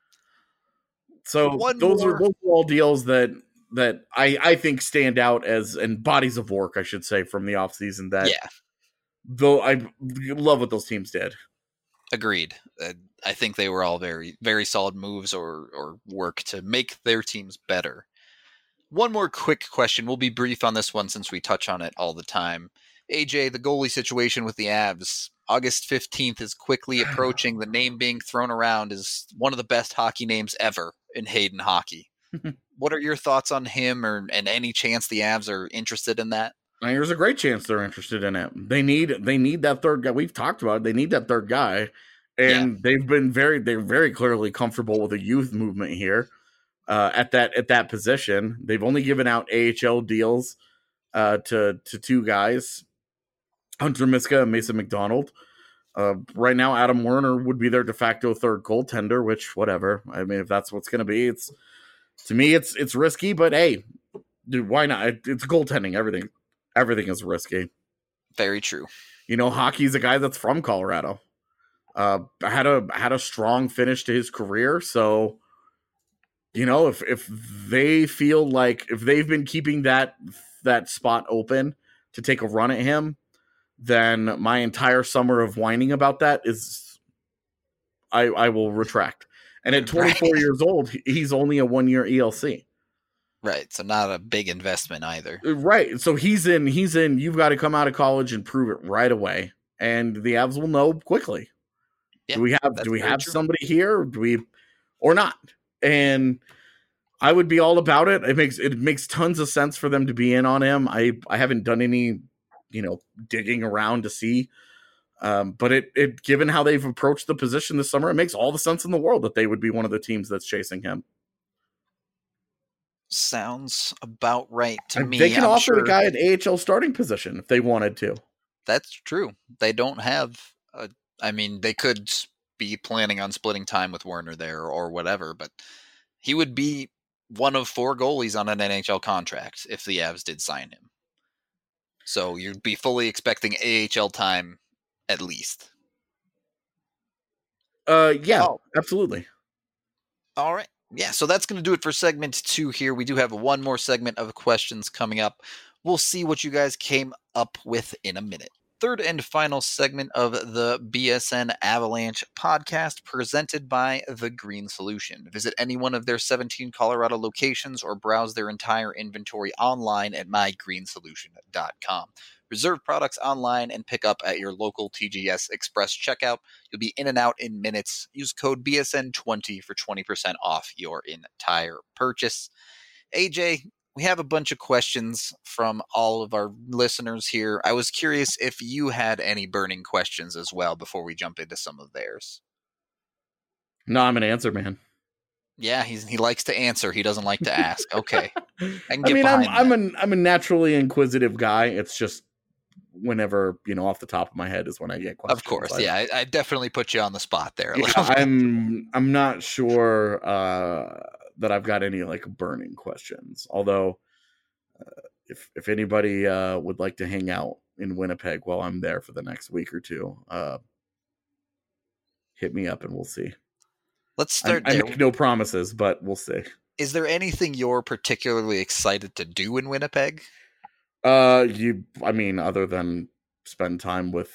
So One those more- are those are all deals that that I I think stand out as and bodies of work, I should say, from the offseason that. Yeah. Though I love what those teams did. Agreed. Uh, I think they were all very, very solid moves or, or work to make their teams better. One more quick question. We'll be brief on this one since we touch on it all the time. A J, the goalie situation with the Avs. August fifteenth is quickly approaching. The name being thrown around is one of the best hockey names ever in Hayden hockey. What are your thoughts on him or and any chance the Avs are interested in that? I think there's a great chance they're interested in it. They need they need that third guy. We've talked about it. They need that third guy. And yeah. they've been very they're very clearly comfortable with a youth movement here uh, at that at that position. They've only given out A H L deals uh, to to two guys, Hunter Miska and Mason McDonald. Uh, right now, Adam Werner would be their de facto third goaltender, which whatever. I mean, if that's what's going to be, it's to me it's it's risky, but hey, dude, why not? It, it's goaltending. Everything everything is risky. Very true. You know, hockey's a guy that's from Colorado. Uh, had a had a strong finish to his career, so you know if if they feel like if they've been keeping that that spot open to take a run at him, then my entire summer of whining about that is I I will retract. And at twenty-four right. years old, he's only a one year E L C. Right, so not a big investment either. Right, so he's in. He's in. You've got to come out of college and prove it right away, and the Avs will know quickly. Yeah, do we have? Do we have true. somebody here? Do we, or not? And I would be all about it. It makes it makes tons of sense for them to be in on him. I I haven't done any, you know, digging around to see, um, but it it given how they've approached the position this summer, it makes all the sense in the world that they would be one of the teams that's chasing him. Sounds about right to and me. They can I'm offer sure. a guy an A H L starting position if they wanted to. That's true. They don't have a, I mean, they could be planning on splitting time with Werner there or whatever, but he would be one of four goalies on an N H L contract if the Avs did sign him. So you'd be fully expecting A H L time at least. Uh, yeah, oh. absolutely. All right. Yeah, so that's going to do it for segment two here. We do have one more segment of questions coming up. We'll see what you guys came up with in a minute. Third and final segment of the B S N Avalanche podcast presented by The Green Solution. Visit any one of their seventeen Colorado locations or browse their entire inventory online at my green solution dot com. Reserve products online and pick up at your local T G S Express checkout. You'll be in and out in minutes. Use code B S N twenty for twenty percent off your entire purchase. A J, we have a bunch of questions from all of our listeners here. I was curious if you had any burning questions as well before we jump into some of theirs. No, I'm an answer man. Yeah, he's, he likes to answer. He doesn't like to ask. Okay. I, can get I mean, I'm, that. I'm, an, I'm a naturally inquisitive guy. It's just whenever, you know, off the top of my head is when I get questions. Of course, I, yeah, I, I definitely put you on the spot there. Yeah, I'm I'm not sure uh, that I've got any like burning questions. Although, uh, if if anybody uh, would like to hang out in Winnipeg while I'm there for the next week or two, uh, hit me up and we'll see. Let's start. I, there. I make no promises, but we'll see. Is there anything you're particularly excited to do in Winnipeg? Uh, you, I mean, other than spend time with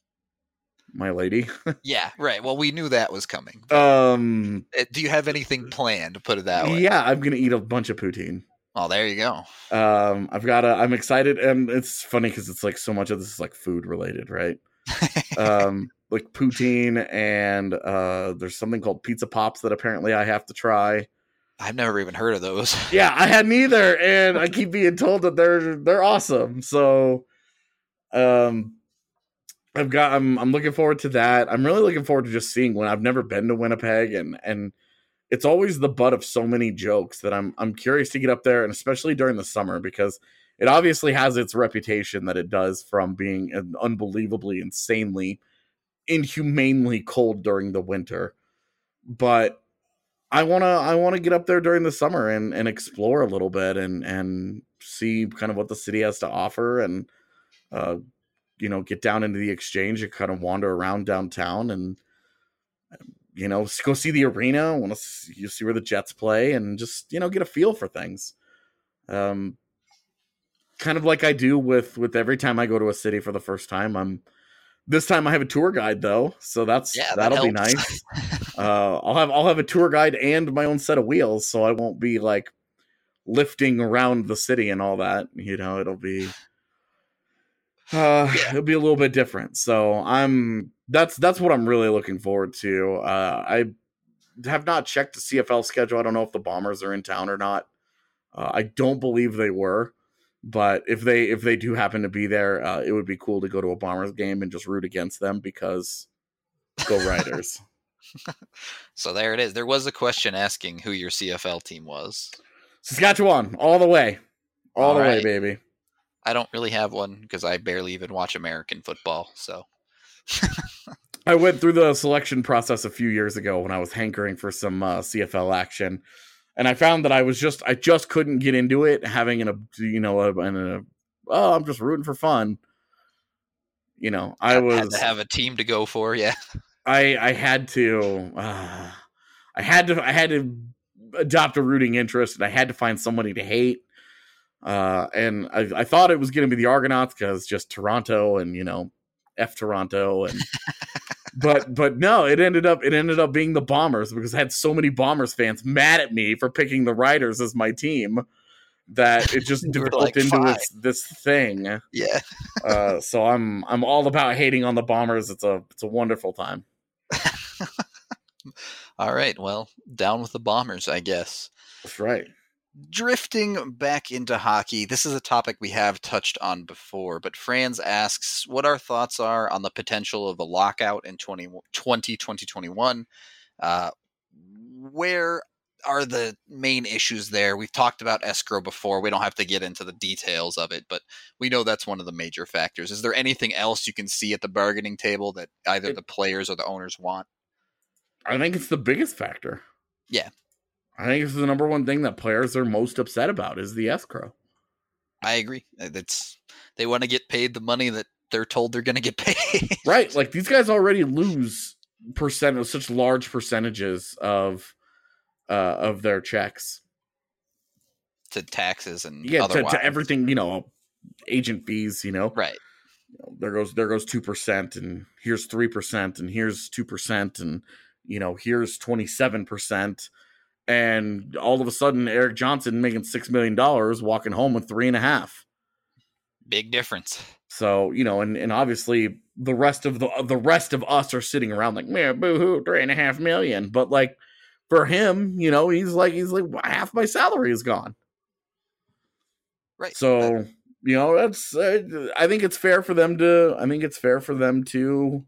my lady. Yeah, right. Well, we knew that was coming. Um, do you have anything planned, to put it that way? Yeah, I'm going to eat a bunch of poutine. Oh, there you go. Um, I've got a, I'm excited. And it's funny because it's like so much of this is like food related, right? um, like poutine and, uh, there's something called pizza pops that apparently I have to try. I've never even heard of those. Yeah, I hadn't either, and I keep being told that they're they're awesome. So, um, I've got I'm I'm looking forward to that. I'm really looking forward to just seeing when I've never been to Winnipeg, and and it's always the butt of so many jokes that I'm I'm curious to get up there, and especially during the summer because it obviously has its reputation that it does from being an unbelievably, insanely, inhumanely cold during the winter, but I want to I want to get up there during the summer and, and explore a little bit and, and see kind of what the city has to offer and, uh, you know, get down into the Exchange and kind of wander around downtown and, you know, go see the arena. I want to see, you see where the Jets play and just, you know, get a feel for things. Um, kind of like I do with, with every time I go to a city for the first time. I'm This time I have a tour guide though, so that's yeah, that'll that be nice. uh, I'll have I'll have a tour guide and my own set of wheels, so I won't be like lifting around the city and all that. You know, it'll be uh, yeah. it'll be a little bit different. So I'm that's that's what I'm really looking forward to. Uh, I have not checked the C F L schedule. I don't know if the Bombers are in town or not. Uh, I don't believe they were. But if they if they do happen to be there, uh, it would be cool to go to a Bombers game and just root against them because go Riders. So there it is. There was a question asking who your C F L team was. Saskatchewan, all the way. All, all the right. way, baby. I don't really have one because I barely even watch American football. So I went through the selection process a few years ago when I was hankering for some uh, C F L action. And I found that I was just, I just couldn't get into it having an, a, you know, a, an, a, oh, I'm just rooting for fun. You know, I was. Had to have a team to go for, yeah. I I had to uh, I had to I had to adopt a rooting interest, and I had to find somebody to hate. Uh, and I, I thought it was going to be the Argonauts because just Toronto and, you know, F Toronto. And but but no, it ended up it ended up being the Bombers because I had so many Bombers fans mad at me for picking the Riders as my team that it just developed like, into its, this thing. Yeah. uh, so I'm I'm all about hating on the Bombers. It's a it's a wonderful time. All right, well, down with the Bombers, I guess. That's right. Drifting back into hockey, this is a topic we have touched on before, but Franz asks what our thoughts are on the potential of a lockout in twenty twenty, twenty twenty-one. Uh, where are the main issues there? We've talked about escrow before. We don't have to get into the details of it, but we know that's one of the major factors. Is there anything else you can see at the bargaining table that either it, the players or the owners want? I think it's the biggest factor. Yeah. I think it's the number one thing that players are most upset about is the escrow. I agree. It's they want to get paid the money that they're told they're going to get paid. Right. Like these guys already lose percent of such large percentages of uh, of their checks to taxes and yeah, to, otherwise. to everything, you know, agent fees, you know, right. You know, there goes, there goes two percent and here's three percent and here's two percent and, you know, here's twenty-seven percent. And all of a sudden, Erik Johnson making six million dollars, walking home with three and a half. Big difference. So, you know, and, and obviously the rest of the the rest of us are sitting around like, man, boo-hoo, three and a half million. But like for him, you know, he's like, he's like, half my salary is gone. Right. So, that, you know, that's, uh, I think it's fair for them to, I think it's fair for them to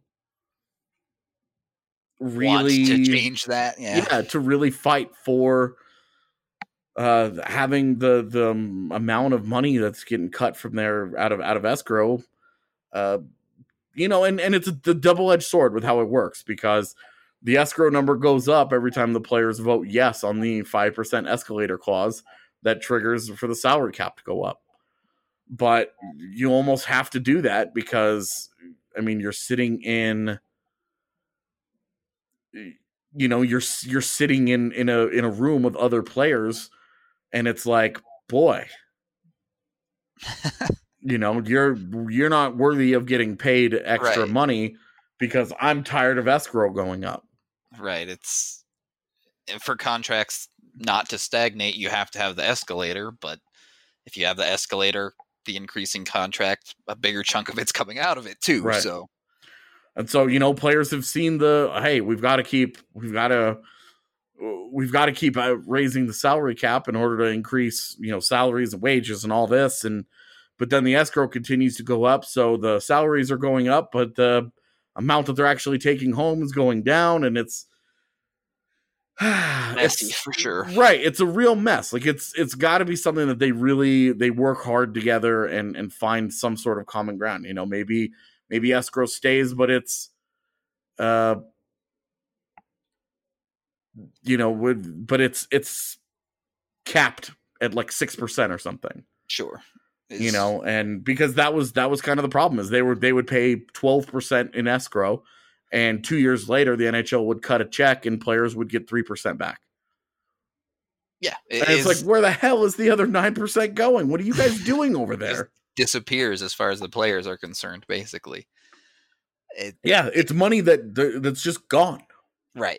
really to change that. Yeah. Yeah. To really fight for uh, having the, the amount of money that's getting cut from their out of, out of escrow, uh, you know, and, and it's the double-edged sword with how it works because the escrow number goes up every time the players vote yes on the five percent escalator clause that triggers for the salary cap to go up. But you almost have to do that because, I mean, you're sitting in, you know, you're, you're sitting in, in a, in a room with other players and it's like, boy, you know, you're, you're not worthy of getting paid extra right. money because I'm tired of escrow going up. Right. It's for contracts not to stagnate. You have to have the escalator, but if you have the escalator, the increasing contract, a bigger chunk of it's coming out of it too. Right. So, and so, you know, players have seen the, hey, we've got to keep, we've got to, we've got to keep raising the salary cap in order to increase, you know, salaries and wages and all this. And, but then the escrow continues to go up. So the salaries are going up, but the amount that they're actually taking home is going down. And it's messy it's, for sure. Right. It's a real mess. Like it's, it's gotta be something that they really, they work hard together and, and find some sort of common ground. You know, maybe, maybe escrow stays, but it's, uh, you know, would, but it's, it's capped at like six percent or something. Sure. It's... You know, and because that was, that was kind of the problem is they were, they would pay twelve percent in escrow and two years later, the N H L would cut a check and players would get three percent back. Yeah. It and it's is... like, where the hell is the other nine percent going? What are you guys doing over there? Disappears as far as the players are concerned, basically. It, yeah, it's it, money that that's just gone. Right.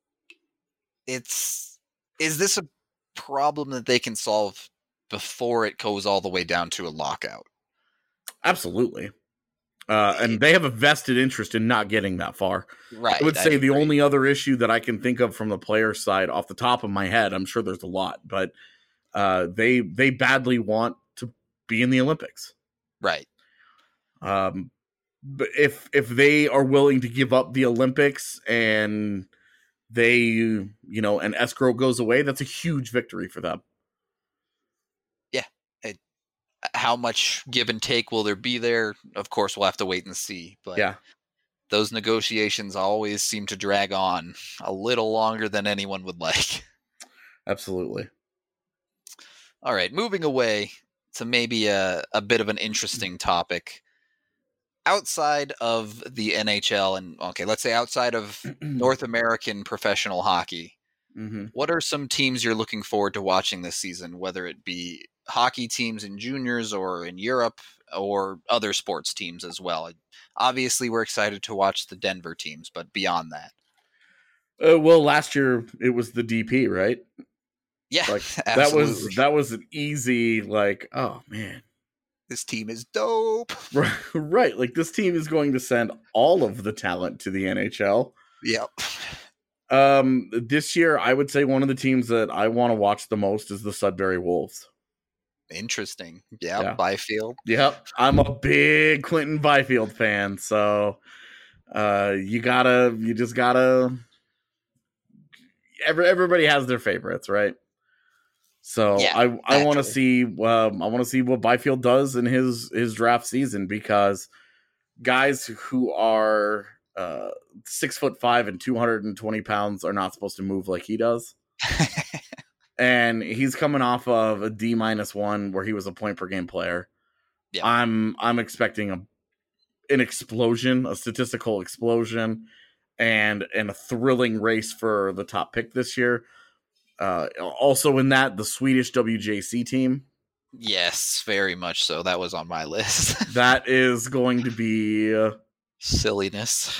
It's is this a problem that they can solve before it goes all the way down to a lockout? Absolutely. Uh, and they have a vested interest in not getting that far. Right. I would say I the only other issue that I can think of from the player side off the top of my head, I'm sure there's a lot, but uh, they they badly want to be in the Olympics. Right. Um, but if if they are willing to give up the Olympics and they, you know, and escrow goes away, that's a huge victory for them. Yeah. It, how much give and take will there be there? Of course, we'll have to wait and see. But yeah, those negotiations always seem to drag on a little longer than anyone would like. Absolutely. All right, moving away to maybe a, a bit of an interesting topic. outside of the N H L and okay, let's say outside of North American professional hockey, mm-hmm. what are some teams you're looking forward to watching this season, whether it be hockey teams in juniors or in Europe or other sports teams as well? Obviously, we're excited to watch the Denver teams, but beyond that. Uh, well, last year it was the D P, right? Yeah, like absolutely. that was that was an easy like, oh man, this team is dope. Right, like this team is going to send all of the talent to the N H L. Yep. Um, this year, I would say one of the teams that I want to watch the most is the Sudbury Wolves. Interesting. Yeah, yeah. Byfield. Yep, I'm a big Clinton Byfield fan, so uh, you gotta, you just gotta. Every everybody has their favorites, right? So yeah, I I want to see um, I want to see what Byfield does in his his draft season, because guys who are uh, six foot five and two hundred and twenty pounds are not supposed to move like he does. And he's coming off of a D minus one where he was a point per game player. Yeah. I'm I'm expecting a an explosion, a statistical explosion, and and a thrilling race for the top pick this year. Uh, also in that, the Swedish W J C team. Yes, very much so. That was on my list. That is going to be uh, silliness.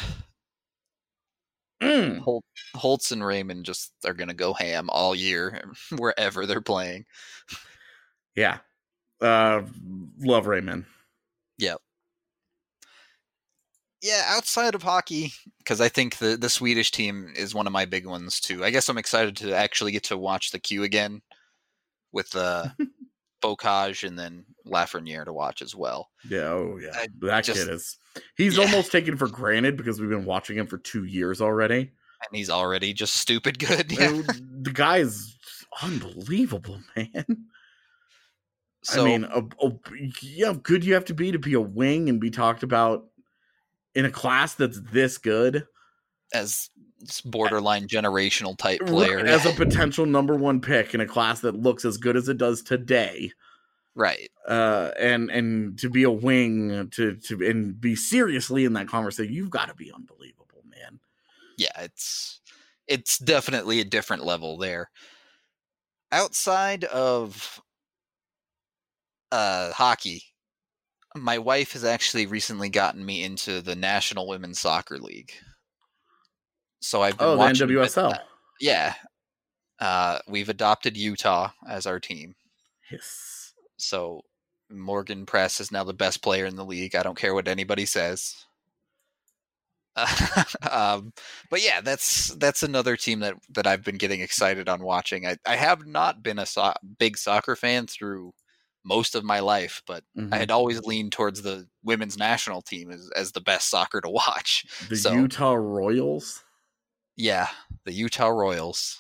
Mm. Hol- Holtz and Raymond just are going to go ham all year wherever they're playing. Yeah. Uh, love Raymond. Yep. Yeah, outside of hockey, because I think the, the Swedish team is one of my big ones too. I guess I'm excited to actually get to watch the Q again with uh, Bocage and then Lafreniere to watch as well. Yeah, oh yeah. I that just, kid is... He's yeah. almost taken for granted because we've been watching him for two years already. And he's already just stupid good. Yeah. The guy is unbelievable, man. So, I mean, a, a, yeah, good you have to be to be a wing and be talked about in a class that's this good. As borderline generational type player. As a potential number one pick in a class that looks as good as it does today. Right. Uh, and and to be a wing, to, to and be seriously in that conversation, you've got to be unbelievable, man. Yeah, it's it's definitely a different level there. Outside of uh, hockey, my wife has actually recently gotten me into the National Women's Soccer League. So I've been oh, watching the N W S L. It, uh, yeah. Uh, we've adopted Utah as our team. Yes. So Morgan Press is now the best player in the league. I don't care what anybody says. Uh, um, but yeah, that's that's another team that, that I've been getting excited on watching. I, I have not been a so- big soccer fan through most of my life, but mm-hmm. I had always leaned towards the women's national team as, as the best soccer to watch. The so, Utah Royals? Yeah, the Utah Royals.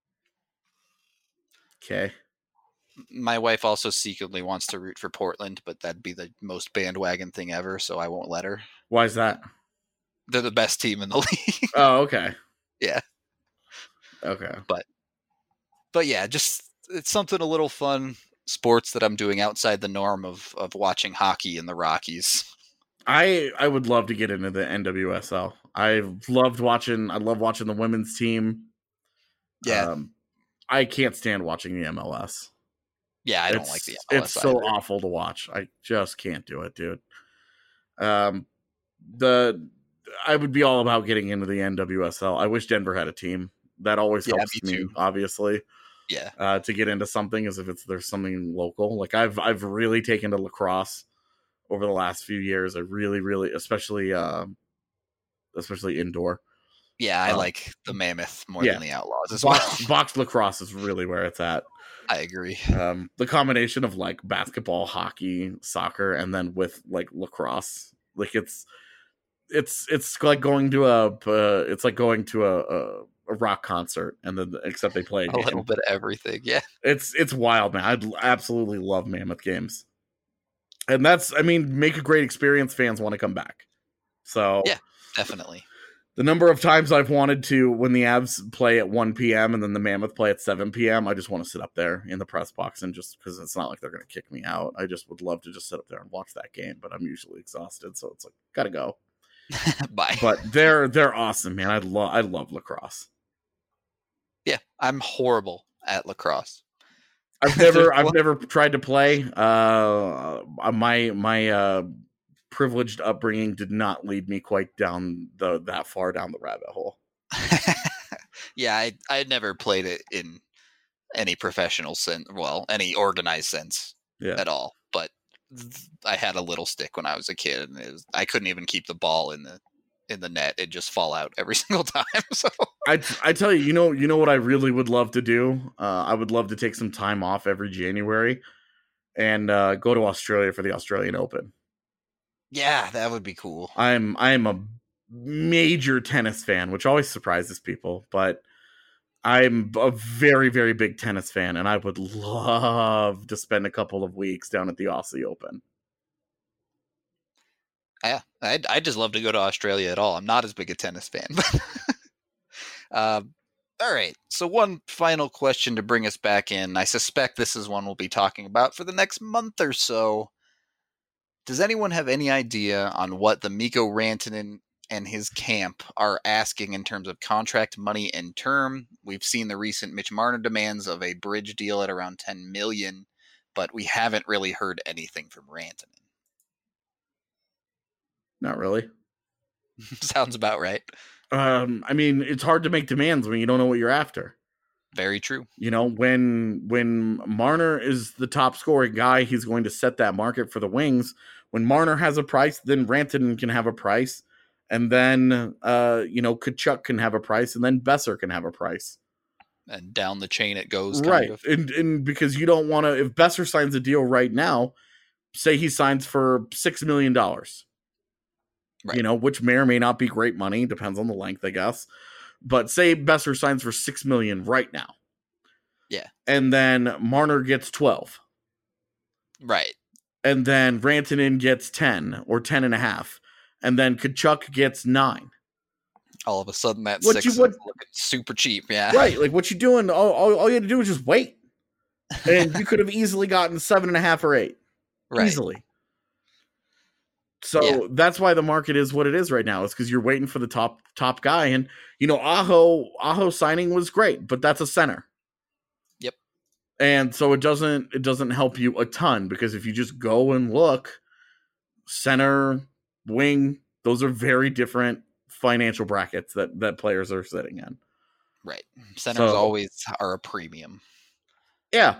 Okay. My wife also secretly wants to root for Portland, but that'd be the most bandwagon thing ever, so I won't let her. Why is that? They're the best team in the league. Oh, okay. Yeah. Okay. But, but yeah, just it's something a little fun, sports that I'm doing outside the norm of, of watching hockey in the Rockies. I I would love to get into the N W S L. I loved watching. I love watching the women's team. Yeah. Um, I can't stand watching the M L S. Yeah, I don't it's, like the M L S It's so either. awful to watch. I just can't do it, dude. Um, the I would be all about getting into the N W S L. I wish Denver had a team. That always Yeah, helps me me, too. obviously. Yeah. Uh, to get into something as if it's there's something local. Like I've I've really taken to lacrosse over the last few years. I really, really, especially uh, especially indoor. Yeah, I Um, like the Mammoth more yeah. than the Outlaws as Box, well. box lacrosse is really where it's at. I agree. Um, the combination of like basketball, hockey, soccer, and then with like lacrosse, like it's it's it's like going to a uh, it's like going to a, a a rock concert, and then except they play a, A game. little bit of everything. Yeah. It's it's wild, man. I'd absolutely love Mammoth games, and that's I mean, make a great experience. Fans want to come back, so Yeah. Definitely. The number of times I've wanted to, when the Avs play at one p.m. and then the Mammoth play at seven p.m., I just want to sit up there in the press box and just, because it's not like they're going to kick me out. I just would love to just sit up there and watch that game, but I'm usually exhausted, so it's like, gotta go. Bye. But they're they're awesome, man. I love I love lacrosse. Yeah, I'm horrible at lacrosse. I've never I've never tried to play. Uh, my my uh, privileged upbringing did not lead me quite down the that far down the rabbit hole. Yeah, I I had never played it in any professional sense, well, any organized sense Yeah. at all. But I had a little stick when I was a kid, and it was, I couldn't even keep the ball in the in the net. It'd just fall out every single time. So I I tell you, you know, you know what I really would love to do. Uh, I would love to take some time off every January and uh, go to Australia for the Australian Open. yeah, that would be cool. I'm I'm a major tennis fan, which always surprises people, but I'm a very, very big tennis fan, and I would love to spend a couple of weeks down at the Aussie Open. Yeah, I'd, I'd just love to go to Australia at all. I'm not as big a tennis fan. But um, all right, so one final question to bring us back in. I suspect this is one we'll be talking about for the next month or so. Does anyone have any idea on what the Mikko Rantanen and his camp are asking in terms of contract money and term? We've seen the recent Mitch Marner demands of a bridge deal at around ten million dollars, but we haven't really heard anything from Rantanen. Not really. Sounds about right. Um, I mean, it's hard to make demands when you don't know what you're after. Very true. You know, when when Marner is the top scoring guy, he's going to set that market for the wings. When Marner has a price, then Rantanen can have a price. And then, uh, you know, Tkachuk can have a price, and then Besser can have a price. And down the chain it goes. Kind Right. of. And, and because you don't want to, if Besser signs a deal right now, say he signs for six million dollars, Right. you know, which may or may not be great money, depends on the length, I guess. But say Besser signs for six million dollars right now. Yeah. And then Marner gets twelve. Right. And then Rantanen gets ten or ten and a half. And then Tkachuk gets nine. All of a sudden, that What six you- is what- looking super cheap. Yeah. Right. Like, what you doing? All, all, all you had to do was just wait. And you could have easily gotten seven and a half or eight. Right. Easily. So Yeah. that's why the market is what it is right now. It's because you're waiting for the top top guy. And, you know, Aho, Aho signing was great, but that's a center. Yep. And so it doesn't it doesn't help you a ton, because if you just go and look, center, wing, those are very different financial brackets that, that players are sitting in. Right. Centers So- always are a premium. Yeah.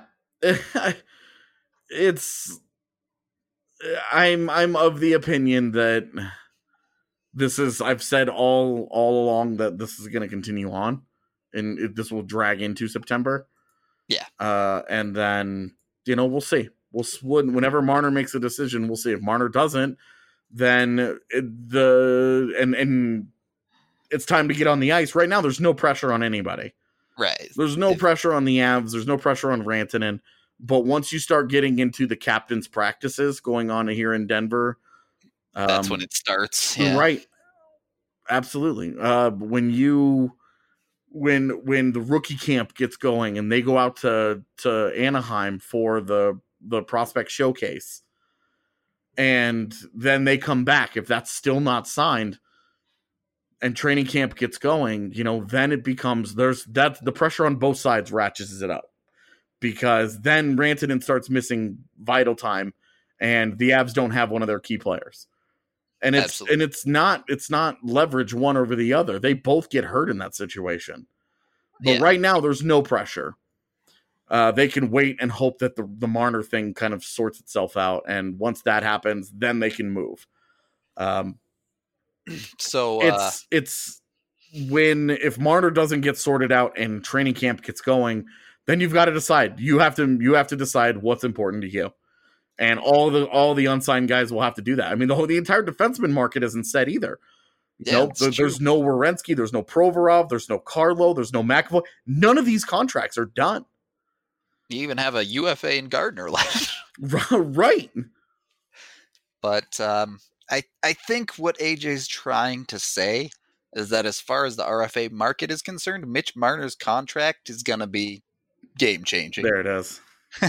It's I'm I'm of the opinion that this is I've said all all along that this is going to continue on, and it, this will drag into September. Yeah. Uh and then, you know, we'll see. We'll s- when- whenever Marner makes a decision, we'll see. If Marner doesn't, then it, the and and it's time to get on the ice. Right now there's no pressure on anybody. Right. There's no If- pressure on the Avs. There's no pressure on Rantanen. But once you start getting into the captain's practices going on here in Denver, um, That's when it starts. Yeah. right? Absolutely. Uh, when you when when the rookie camp gets going and they go out to to Anaheim for the the prospect showcase, and then they come back, if that's still not signed, and training camp gets going, you know, then it becomes there's that's the pressure on both sides ratchets it up, because then Rantanen starts missing vital time, and the Avs don't have one of their key players, and it's Absolutely. and it's not it's not leverage one over the other. They both get hurt in that situation, but Yeah. right now there's no pressure. Uh, they can wait and hope that the the Marner thing kind of sorts itself out, and once that happens, then they can move. Um, So uh, it's it's when if Marner doesn't get sorted out and training camp gets going, then you've got to decide. You have to you have to decide what's important to you, and all the all the unsigned guys will have to do that. I mean, the whole the entire defenseman market isn't set either. You Yeah, know, it's there- true. there's no Werenski, there's no Provorov, there's no Carlo, there's no McAvoy. None of these contracts are done. you even have a U F A and Gardner left. Right. But um, I I think what A J's trying to say is that as far as the R F A market is concerned, Mitch Marner's contract is going to be game-changing. There it is.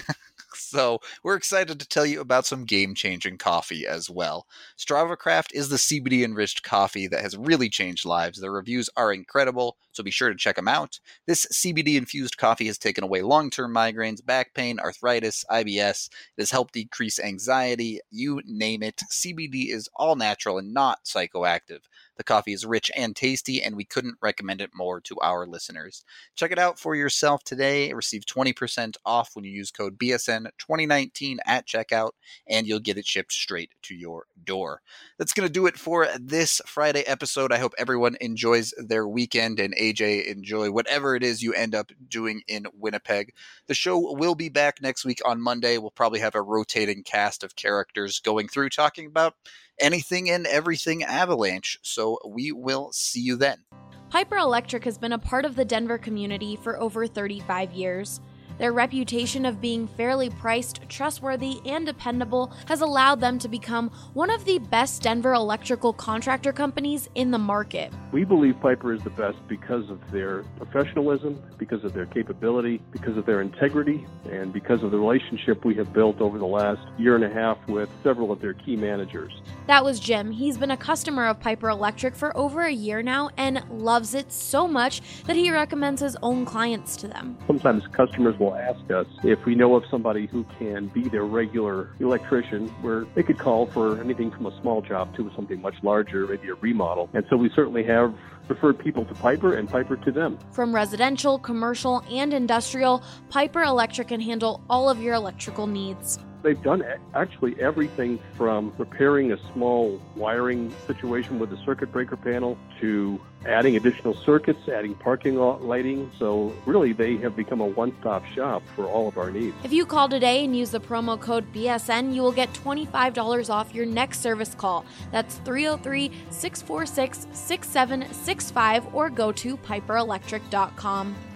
So we're excited to tell you about some game-changing coffee as well. StravaCraft is the C B D-enriched coffee that has really changed lives. Their reviews are incredible, so be sure to check them out. This C B D-infused coffee has taken away long-term migraines, back pain, arthritis, I B S. It has helped decrease anxiety, you name it. C B D is all natural and not psychoactive. The coffee is rich and tasty, and we couldn't recommend it more to our listeners. Check it out for yourself today. Receive twenty percent off when you use code B S N twenty nineteen at checkout, and you'll get it shipped straight to your door. That's going to do it for this Friday episode. I hope everyone enjoys their weekend, and A J, enjoy whatever it is you end up doing in Winnipeg. The show will be back next week on Monday. We'll probably have a rotating cast of characters going through talking about anything and everything Avalanche. So we will see you then. Piper Electric has been a part of the Denver community for over thirty-five years. Their reputation of being fairly priced, trustworthy, and dependable has allowed them to become one of the best Denver electrical contractor companies in the market. We believe Piper is the best because of their professionalism, because of their capability, because of their integrity, and because of the relationship we have built over the last year and a half with several of their key managers. That was Jim. He's been a customer of Piper Electric for over a year now and loves it so much that he recommends his own clients to them. Sometimes customers will ask us if we know of somebody who can be their regular electrician, where they could call for anything from a small job to something much larger, maybe a remodel. And so we certainly have referred people to Piper and Piper to them. From residential, commercial, and industrial, Piper Electric can handle all of your electrical needs. They've done actually everything from repairing a small wiring situation with a circuit breaker panel to adding additional circuits, adding parking lot lighting. So really, they have become a one-stop shop for all of our needs. If you call today and use the promo code B S N, you will get twenty-five dollars off your next service call. That's three oh three, six four six, six seven six five or go to piper electric dot com.